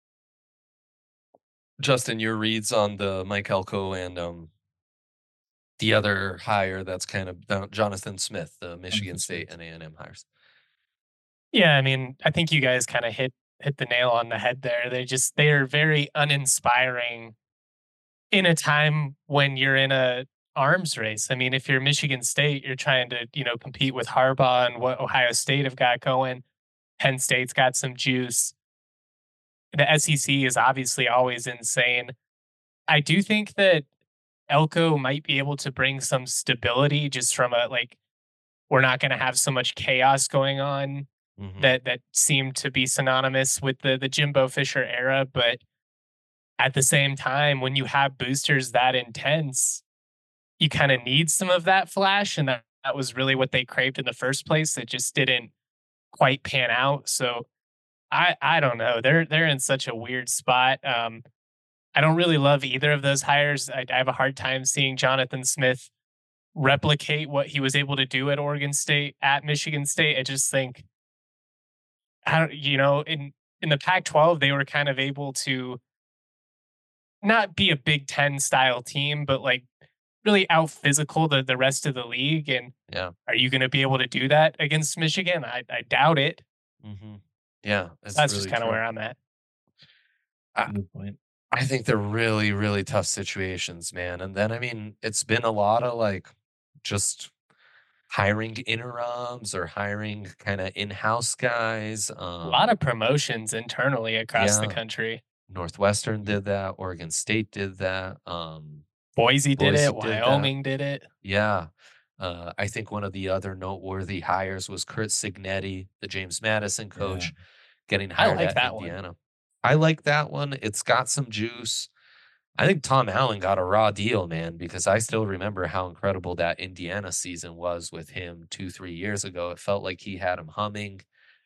Justin, your reads on the Mike Elko and the other hire that's kind of Jonathan Smith, the Michigan Jonathan State Smith. and A&M hires. Yeah, I mean, I think you guys kind of hit the nail on the head there. They are very uninspiring in a time when you're in a arms race. I mean, if you're Michigan State, you're trying to, compete with Harbaugh and what Ohio State have got going. Penn State's got some juice. The SEC is obviously always insane. I do think that Elko might be able to bring some stability just from a like we're not going to have so much chaos going on Mhm. that seemed to be synonymous with the Jimbo Fisher era. But at the same time, when you have boosters that intense, you kind of need some of that flash, and that was really what they craved in the first place. It just didn't quite pan out. So I don't know. They're in such a weird spot. I don't really love either of those hires. I have a hard time seeing Jonathan Smith replicate what he was able to do at Oregon State, at Michigan State. I just think I don't, in the Pac-12 they were kind of able to not be a Big Ten style team, but like really out physical the rest of the league. And Yeah. are you going to be able to do that against Michigan? I doubt it. Mhm. Yeah, So it's that's just really kind of true. where I'm at. I Good point. I think they're really, really tough situations, man, and then, I mean, it's been a lot of, like, just hiring interims or hiring kinda in-house guys, A lot of promotions internally across the yeah, country. Northwestern Mhm. did that, Oregon State did that, Boise did Boise it. did that. Wyoming did it. Yeah. I think one of the other noteworthy hires was Kurt Cignetti, the James Madison Yeah. coach, getting I hired like at that one. Indiana. I like that one. It's got some juice. I think Tom Allen got a raw deal, man, because I still remember how incredible that Indiana season was with him 2, 3 years ago. It felt like he had him humming.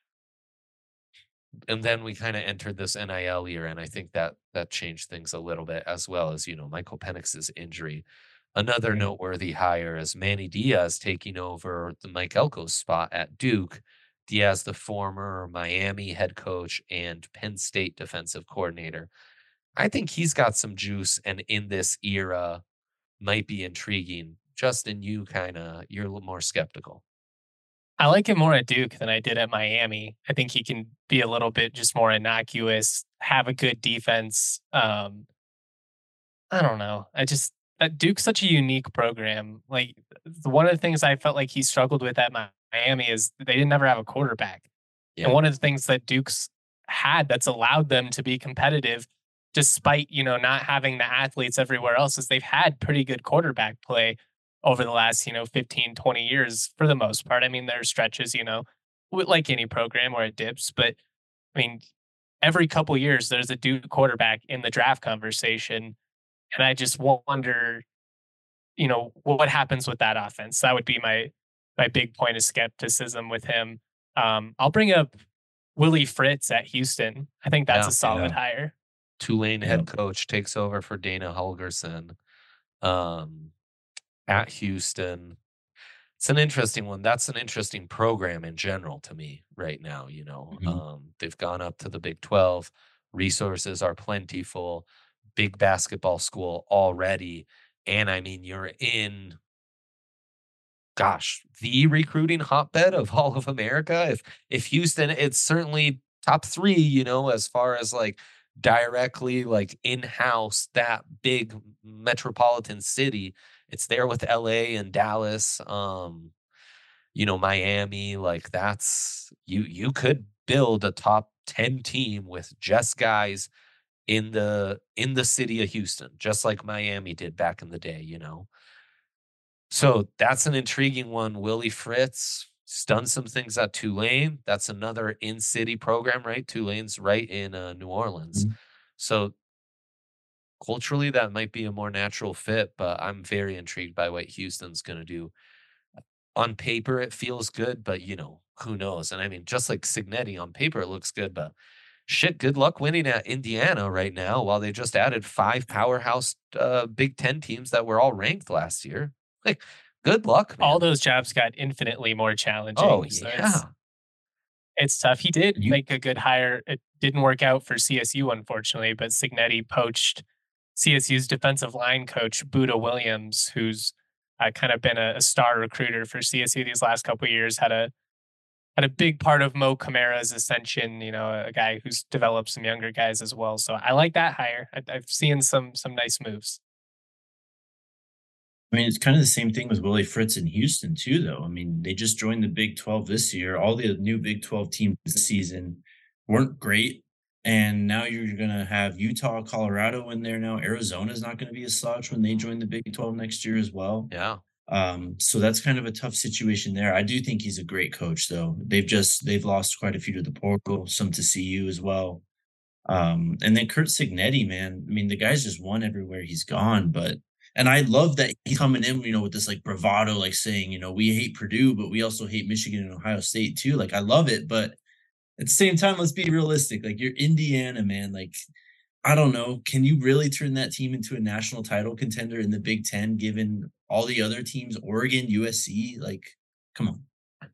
And then we kinda entered this NIL year, and I think that that changed things a little bit as well as, Michael Penix's injury. Another Yeah. noteworthy hire is Manny Diaz taking over the Mike Elko's spot at Duke. Diaz, the former Miami head coach and Penn State defensive coordinator. I think he's got some juice and in this era might be intriguing. Justin, you're a little more skeptical. I like him more at Duke than I did at Miami. I think he can be a little bit just more innocuous, have a good defense. I don't know. Duke's such a unique program. Like one of the things I felt like he struggled with at Miami is they didn't ever have a quarterback. And Yeah. one of the things that Duke's had that's allowed them to be competitive, despite not having the athletes everywhere else, is they've had pretty good quarterback play over the last 15, 20 years for the most part. I mean, there are stretches, like any program where it dips, but I mean, every couple years there's a Duke quarterback in the draft conversation, and I just wonder, what happens with that offense. That would be my big point of skepticism with him. I'll bring up Willie Fritz at Houston. I think that's Yeah. a solid Yeah. hire. Tulane Yeah. head coach takes over for Dana Holgerson, um, at Houston. It's an interesting one. That's an interesting program in general to me right now, Mhm. they've gone up to the Big 12. Resources are plentiful. Big basketball school already. And I mean, you're in, gosh, the recruiting hotbed of all of America. If Houston, it's certainly top 3, as far as like directly like in-house that big metropolitan city. It's there with LA and Dallas. Miami, like you could build a top 10 team with just guys in the city of Houston, just like Miami did back in the day. So that's an intriguing one. Willie Fritz has done some things at Tulane. That's another in-city program, right? Tulane's right in New Orleans. Mhm. So culturally, that might be a more natural fit, but I'm very intrigued by what Houston's going to do. On paper, it feels good, but who knows? And I mean, just like Signetti on paper, it looks good, but shit, good luck winning at Indiana right now while they just added 5 powerhouse Big Ten teams that were all ranked last year. Like, good luck, All man. those jobs got infinitely more Oh, challenging. So it's yeah. it's tough. He did You make a good hire. It didn't work out for CSU, unfortunately, but Signetti poached CSU's defensive line coach, Buda Williams, who's kind of been a star recruiter for CSU these last couple of years. Had a big part of Mo Camara's ascension. A guy who's developed some younger guys as well. So I like that hire. I've seen some nice moves. I mean, it's kind of the same thing with Willie Fritz in Houston too, though. I mean, they just joined the Big 12 this year. All the new Big 12 teams this season weren't great. And now you're going to have Utah, Colorado in there now. Arizona's not going to be a slouch when they join the Big 12 next year as well. Yeah. So that's kind of a tough situation there. I do think he's a great coach, though. They've lost quite a few to the portal, some to CU as well. And then Kurt Signetti, man. I mean, the guy's just won everywhere he's gone, and I love that he's coming in, with this like bravado, like saying, we hate Purdue, but we also hate Michigan and Ohio State too. Like, I love it, but at the same time, let's be realistic. Like, you're Indiana, man. Like, I don't know. Can you really turn that team into a national title contender in the Big Ten, given all the other teams, Oregon, USC? Like, come on.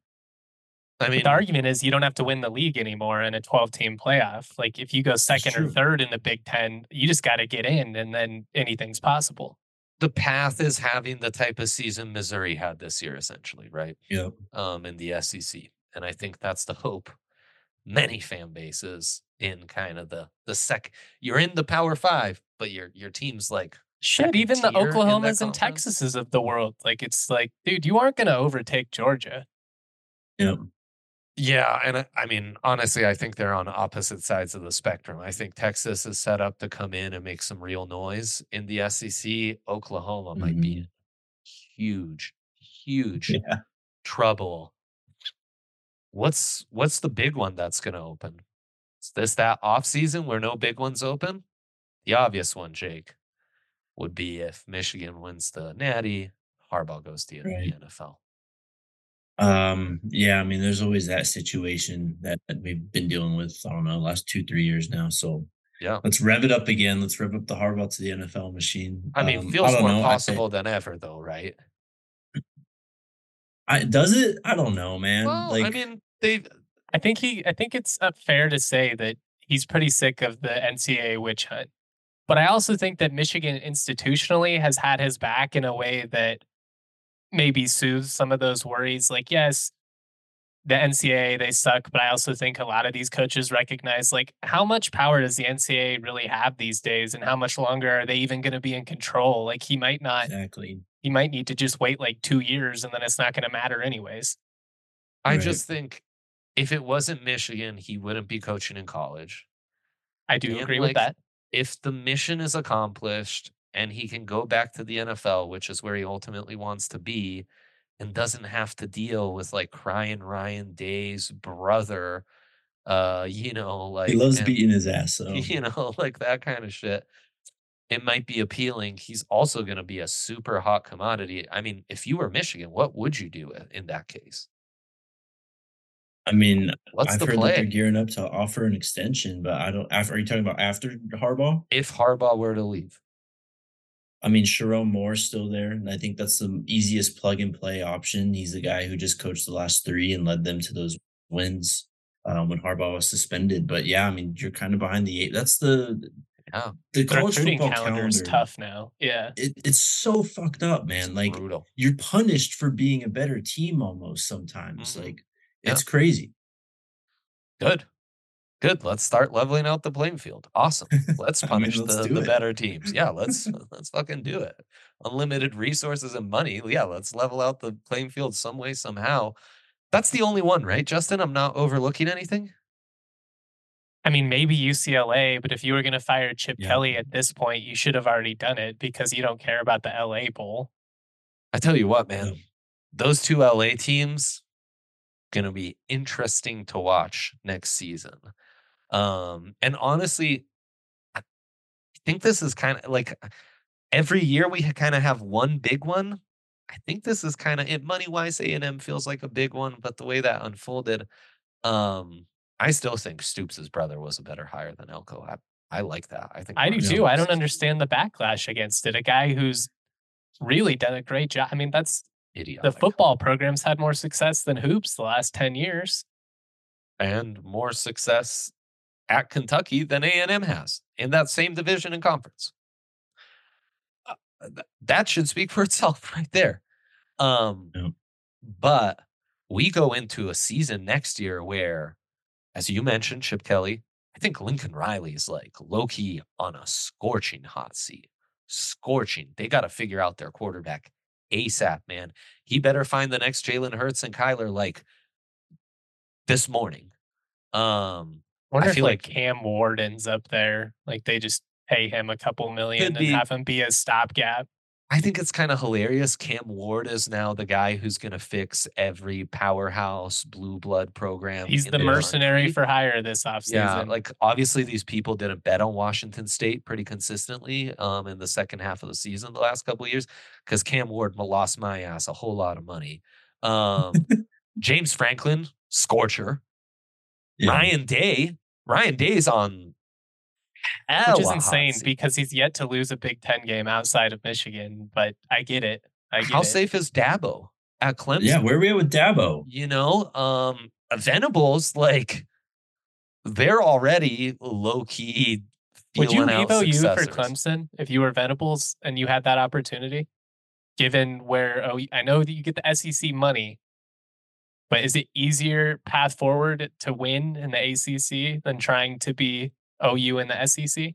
I mean, the argument is you don't have to win the league anymore in a 12-team playoff. Like, if you go second or third in the Big Ten, you just got to get in, and then anything's possible. The path is having the type of season Missouri had this year, essentially, right? Yeah. In the SEC, and I think that's the hope. Many fan bases in kind of the you're in the Power Five, but your team's like shit. Even the Oklahomas and Texases of the world, like, it's like, dude, you aren't going to overtake Georgia. Yep. Yeah, and I mean, honestly, I think they're on opposite sides of the spectrum. I think Texas is set up to come in and make some real noise in the SEC. Oklahoma might be in huge trouble. What's the big one that's going to open? Is this that off season where no big ones open? The obvious one, Jake, would be if Michigan wins the Natty, Harbaugh goes to the NFL. Yeah, I mean, there's always that situation that we've been dealing with, I don't know, last 2-3 years now. So yeah, let's rev it up again. Let's rev up the Harbaugh to the NFL machine. I mean, feels more possible than ever, though, right? Does it? I don't know, man. Well, I mean, I think it's fair to say that he's pretty sick of the NCAA witch hunt. But I also think that Michigan institutionally has had his back in a way that maybe soothes some of those worries. Like, yes, the NCAA, they suck, but I also think a lot of these coaches recognize, like, how much power does the NCAA really have these days, and how much longer are they even going to be in control? Like, he might not. Exactly. He might need to just wait like 2 years, and then it's not going to matter anyways. I just think if it wasn't Michigan, he wouldn't be coaching in college. I do agree with that. If the mission is accomplished and he can go back to the NFL, which is where he ultimately wants to be, and doesn't have to deal with like crying Ryan Day's brother, like he loves beating his ass, so like that kind of shit. It might be appealing. He's also going to be a super hot commodity. I mean, if you were Michigan, what would you do in that case? I mean, I've heard that they're gearing up to offer an extension, but I don't. Are you talking about after Harbaugh? If Harbaugh were to leave, I mean, Sharon Moore's still there, and I think that's the easiest plug and play option. He's the guy who just coached the last 3 and led them to those wins when Harbaugh was suspended. But yeah, I mean, you're kind of behind the 8. That's the college football calendar is tough now. Yeah, it's so fucked up, man. It's like brutal. You're punished for being a better team almost sometimes. Like it's crazy. Good. Let's start leveling out the playing field. Awesome. Let's punish the better teams. Yeah, let's fucking do it. Unlimited resources and money. Yeah, let's level out the playing field some way, somehow. That's the only one, right, Justin? I'm not overlooking anything. I mean, maybe UCLA, but if you were going to fire Chip Kelly at this point, you should have already done it because you don't care about the LA Bowl. I tell you what, man, those 2 LA teams going to be interesting to watch next season. And honestly, I think this is kind of like every year we kind of have one big one. I think this is kind of it. Money-wise, A&M feels like a big one, but the way that unfolded, I still think Stoops' brother was a better hire than Elko. I like that. I do too. I don't understand the backlash against it. A guy who's really done a great job. I mean, that's idiotic. The football program's had more success than hoops the last 10 years. And more success at Kentucky than A&M has in that same division and conference. That should speak for itself right there. Um, Yeah. but we go into a season next year where, as you mentioned, Chip Kelly, I think Lincoln Riley's like low key on a scorching hot seat. Scorching. They got to figure out their quarterback ASAP, man. He better find the next Jalen Hurts and Kyler like this morning. I I wonder if feel like like Cam Ward ends up there. Like they just pay him a couple could million and be. have him be a stopgap. I think it's kind of hilarious. Cam Ward is now the guy who's going to fix every powerhouse blue blood program He's in the the mercenary country. for hire this Yeah, offseason. like obviously these people didn't bet on Washington State pretty consistently in the second half of the season the last couple of years because Cam Ward lost my ass a whole lot of money. James Franklin, scorcher. Yeah. Ryan Day's on Which hella is hot insane seat. because he's yet to lose a Big Ten game outside of Michigan. But I get it. I How get it. safe is Dabo at Yeah. Clemson? Where are we at with Dabo? Venables, like they're already low key Would you feeling leave out OU for successors. Clemson if you were Venables and you had that opportunity? Given where I know that you get the SEC money, but is it easier path forward to win in the ACC than trying to be OU in the SEC?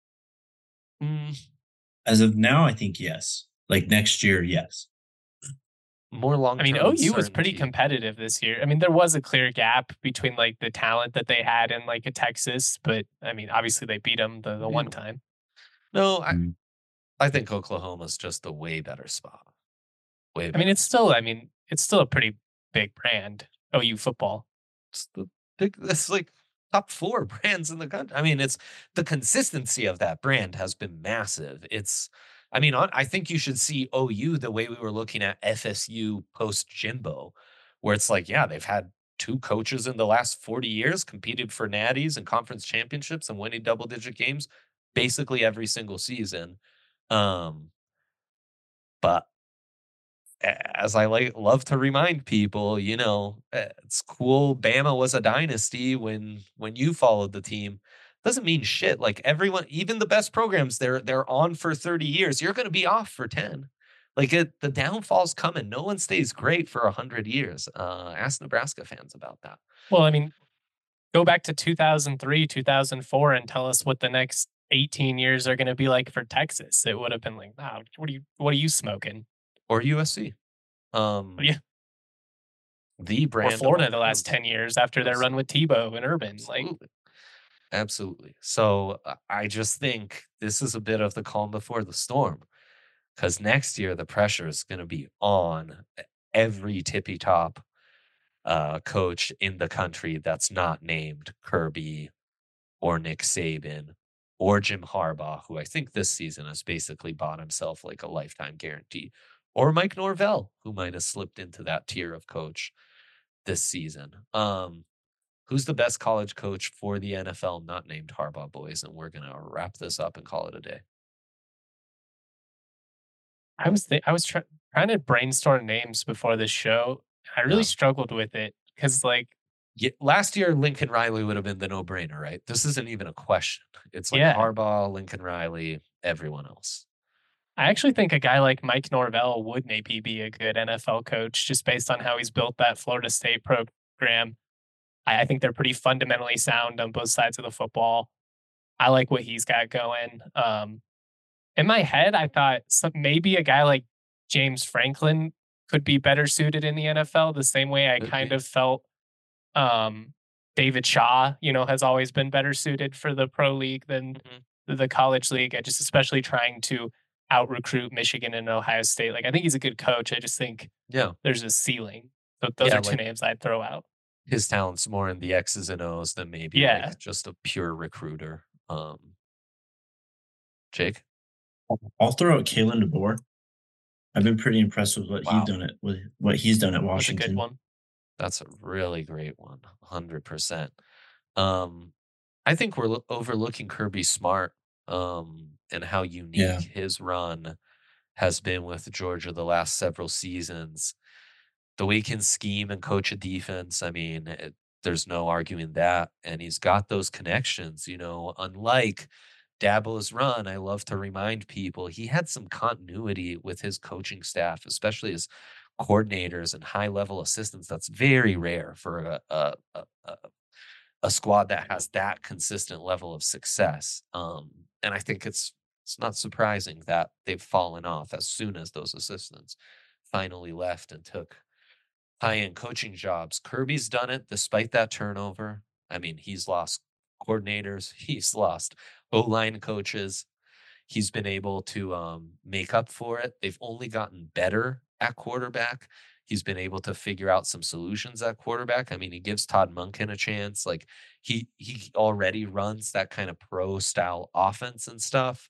Mm, As of now, I think yes. Like next year, yes. more long I mean, term OU was pretty uncertainty. competitive this year. I mean, there was a clear gap between like the talent that they had in like a Texas, but I mean, obviously they beat them the one time. No, Mm. I think Oklahoma's just a way better spot. Way I mean, better. it's still a pretty big brand, OU football. It's the big. It's like top 4 brands in the country. I mean, it's the consistency of that brand has been massive. I think you should see OU the way we were looking at FSU post Jimbo, where it's like, yeah, they've had 2 coaches in the last 40 years competed for natties and conference championships and winning double digit games basically every single season. Um, but as I love to remind people, it's cool. Bama was a dynasty when you followed the team. Doesn't mean shit. Like everyone, even the best programs, they're on for 30 years. You're going to be off for 10. The downfall's coming. No one stays great for 100 years. Ask Nebraska fans about that. Well, I mean, go back to 2003, 2004 and tell us what the next 18 years are going to be like for Texas. It would have been like, wow, what are you smoking? Or USC. Yeah. The Or brand of Florida all the last brands. 10 years after their run with Tebow and Urban. Like, Absolutely. Absolutely. So I just think this is a bit of the calm before the storm because next year the pressure is going to be on every tippy top coach in the country that's not named Kirby or Nick Saban or Jim Harbaugh, who I think this season has basically bought himself like a lifetime guarantee, or Mike Norvell, who might have slipped into that tier of coach this season. Who's the best college coach for the NFL not named Harbaugh, boys? And we're going to wrap this up and call it a day. I was trying to brainstorm names before this show. I really struggled with it because, like, last year, Lincoln Riley would have been the no-brainer, right? This isn't even a question. It's like yeah, Harbaugh, Lincoln Riley, everyone else. I actually think a guy like Mike Norvell would maybe be a good NFL coach just based on how he's built that Florida State program. I think they're pretty fundamentally sound on both sides of the football. I like what he's got going. In my head, I thought maybe a guy like James Franklin could be better suited in the NFL the same way I Could kind be. of felt David Shaw, has always been better suited for the pro league than the college league. I just especially trying to out recruit Michigan and Ohio State. Like I think he's a good coach. I just think there's a ceiling. So those are two names I'd throw out. His talent's more in the X's and O's than maybe like just a pure recruiter. Jake? I'll throw out Kalen DeBoer. I've been pretty impressed with what he's done at Washington. That's a good one. That's a really great one. 100%. I think we're overlooking Kirby Smart and how unique his run has been with Georgia the last several seasons. The way he can scheme and coach a defense, I mean, there's no arguing that. And he's got those connections, unlike Dabo's run. I love to remind people he had some continuity with his coaching staff, especially his coordinators and high level assistants. That's very rare for a squad that has that consistent level of success. And I think it's not surprising that they've fallen off as soon as those assistants finally left and took high-end coaching jobs. Kirby's done it despite that turnover. I mean, he's lost coordinators, he's lost O-line coaches. He's been able to make up for it. They've only gotten better at quarterback. He's been able to figure out some solutions at quarterback. I mean, he gives Todd Monken a chance. Like he already runs that kind of pro style offense and stuff.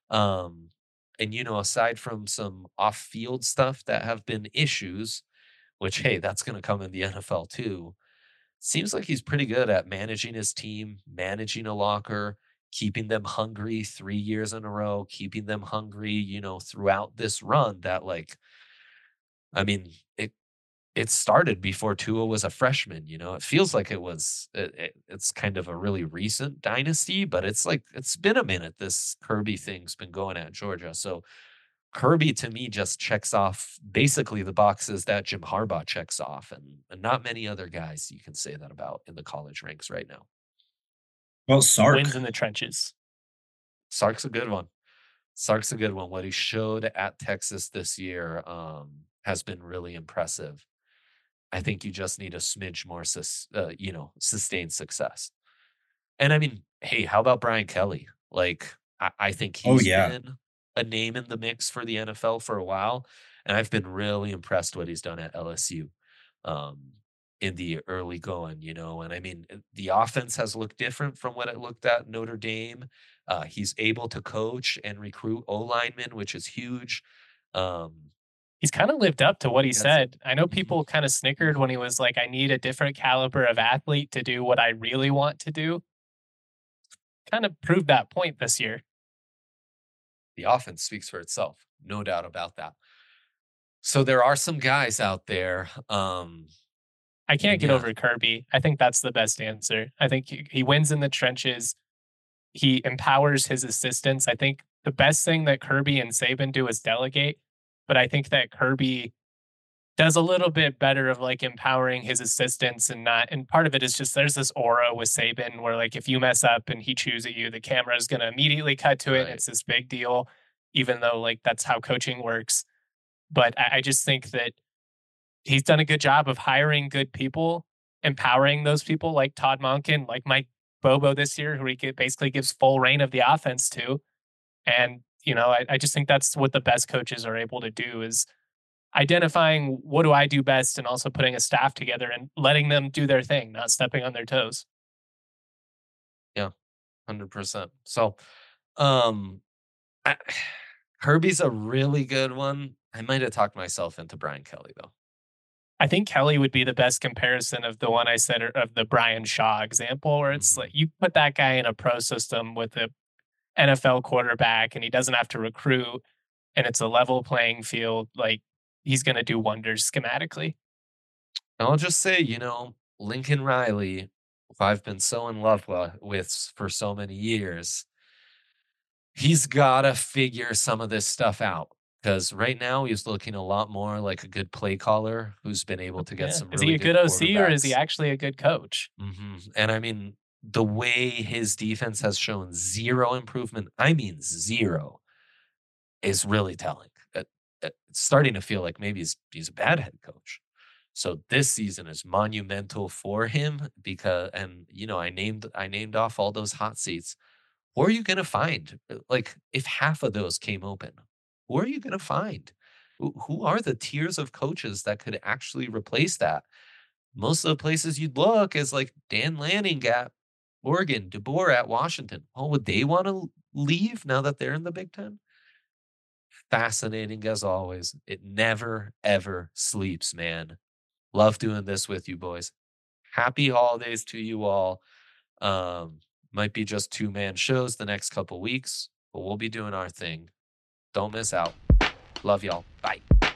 And aside from some off-field stuff that have been issues, which hey, that's going to come in the NFL too. Seems like he's pretty good at managing his team, managing a locker, keeping them hungry 3 years in a row, keeping them hungry, throughout this run that like I mean, it started before Tua was a freshman, It feels like it's kind of a really recent dynasty, but it's like it's been a minute this Kirby thing's been going at Georgia. So Kirby to me just checks off basically the boxes that Jim Harbaugh checks off, and not many other guys you can say that about in the college ranks right now. Well, Sark. Wins in the trenches. Sark's a good one. Sark's a good one. What he showed at Texas this year has been really impressive. I think you just need a smidge more, sustained success. And I mean, hey, how about Brian Kelly? Like, I think he's been a name in the mix for the NFL for a while, and I've been really impressed what he's done at LSU in the early going, And I mean, the offense has looked different from what it looked at Notre Dame. He's able to coach and recruit O-linemen, which is huge. He's kind of lived up to what he said. I know people kind of snickered when he was like, I need a different caliber of athlete to do what I really want to do. Kind of proved that point this year. The offense speaks for itself. No doubt about that. So there are some guys out there. I can't get over Kirby. I think that's the best answer. I think he wins in the trenches. He empowers his assistants. I think the best thing that Kirby and Saban do is delegate. But I think that Kirby does a little bit better of like empowering his assistants and part of it is just there's this aura with Saban where like if you mess up and he chews at you, the camera is going to immediately cut to it. Right. It's this big deal, even though like that's how coaching works. But I just think that he's done a good job of hiring good people, empowering those people like Todd Monken, like Mike Bobo this year, who he basically gives full reign of the offense to. And I just think that's what the best coaches are able to do is identifying what do I do best and also putting a staff together and letting them do their thing, not stepping on their toes. Yeah, 100%. So Kirby's a really good one. I might have talked myself into Brian Kelly, though. I think Kelly would be the best comparison of the one I said of the Brian Shaw example, where it's like you put that guy in a pro system with a NFL quarterback and he doesn't have to recruit and it's a level playing field, like he's going to do wonders schematically. I'll just say, Lincoln Riley, who I've been so in love with for so many years, he's got to figure some of this stuff out because right now he's looking a lot more like a good play caller who's been able to get some Is really he a good OC or is he actually a good coach? And I mean, the way his defense has shown zero improvement, I mean zero, is really telling. It's starting to feel like maybe he's a bad head coach. So this season is monumental for him because, and I named off all those hot seats. Who are you going to find? Like if half of those came open, who are you going to find? Who are the tiers of coaches that could actually replace that? Most of the places you'd look is like Dan Lanning at Oregon, DeBoer at Washington. Oh, would they want to leave now that they're in the Big Ten? Fascinating as always. It never, ever sleeps, man. Love doing this with you boys. Happy holidays to you all. Might be just 2-man shows the next couple weeks, but we'll be doing our thing. Don't miss out. Love y'all. Bye.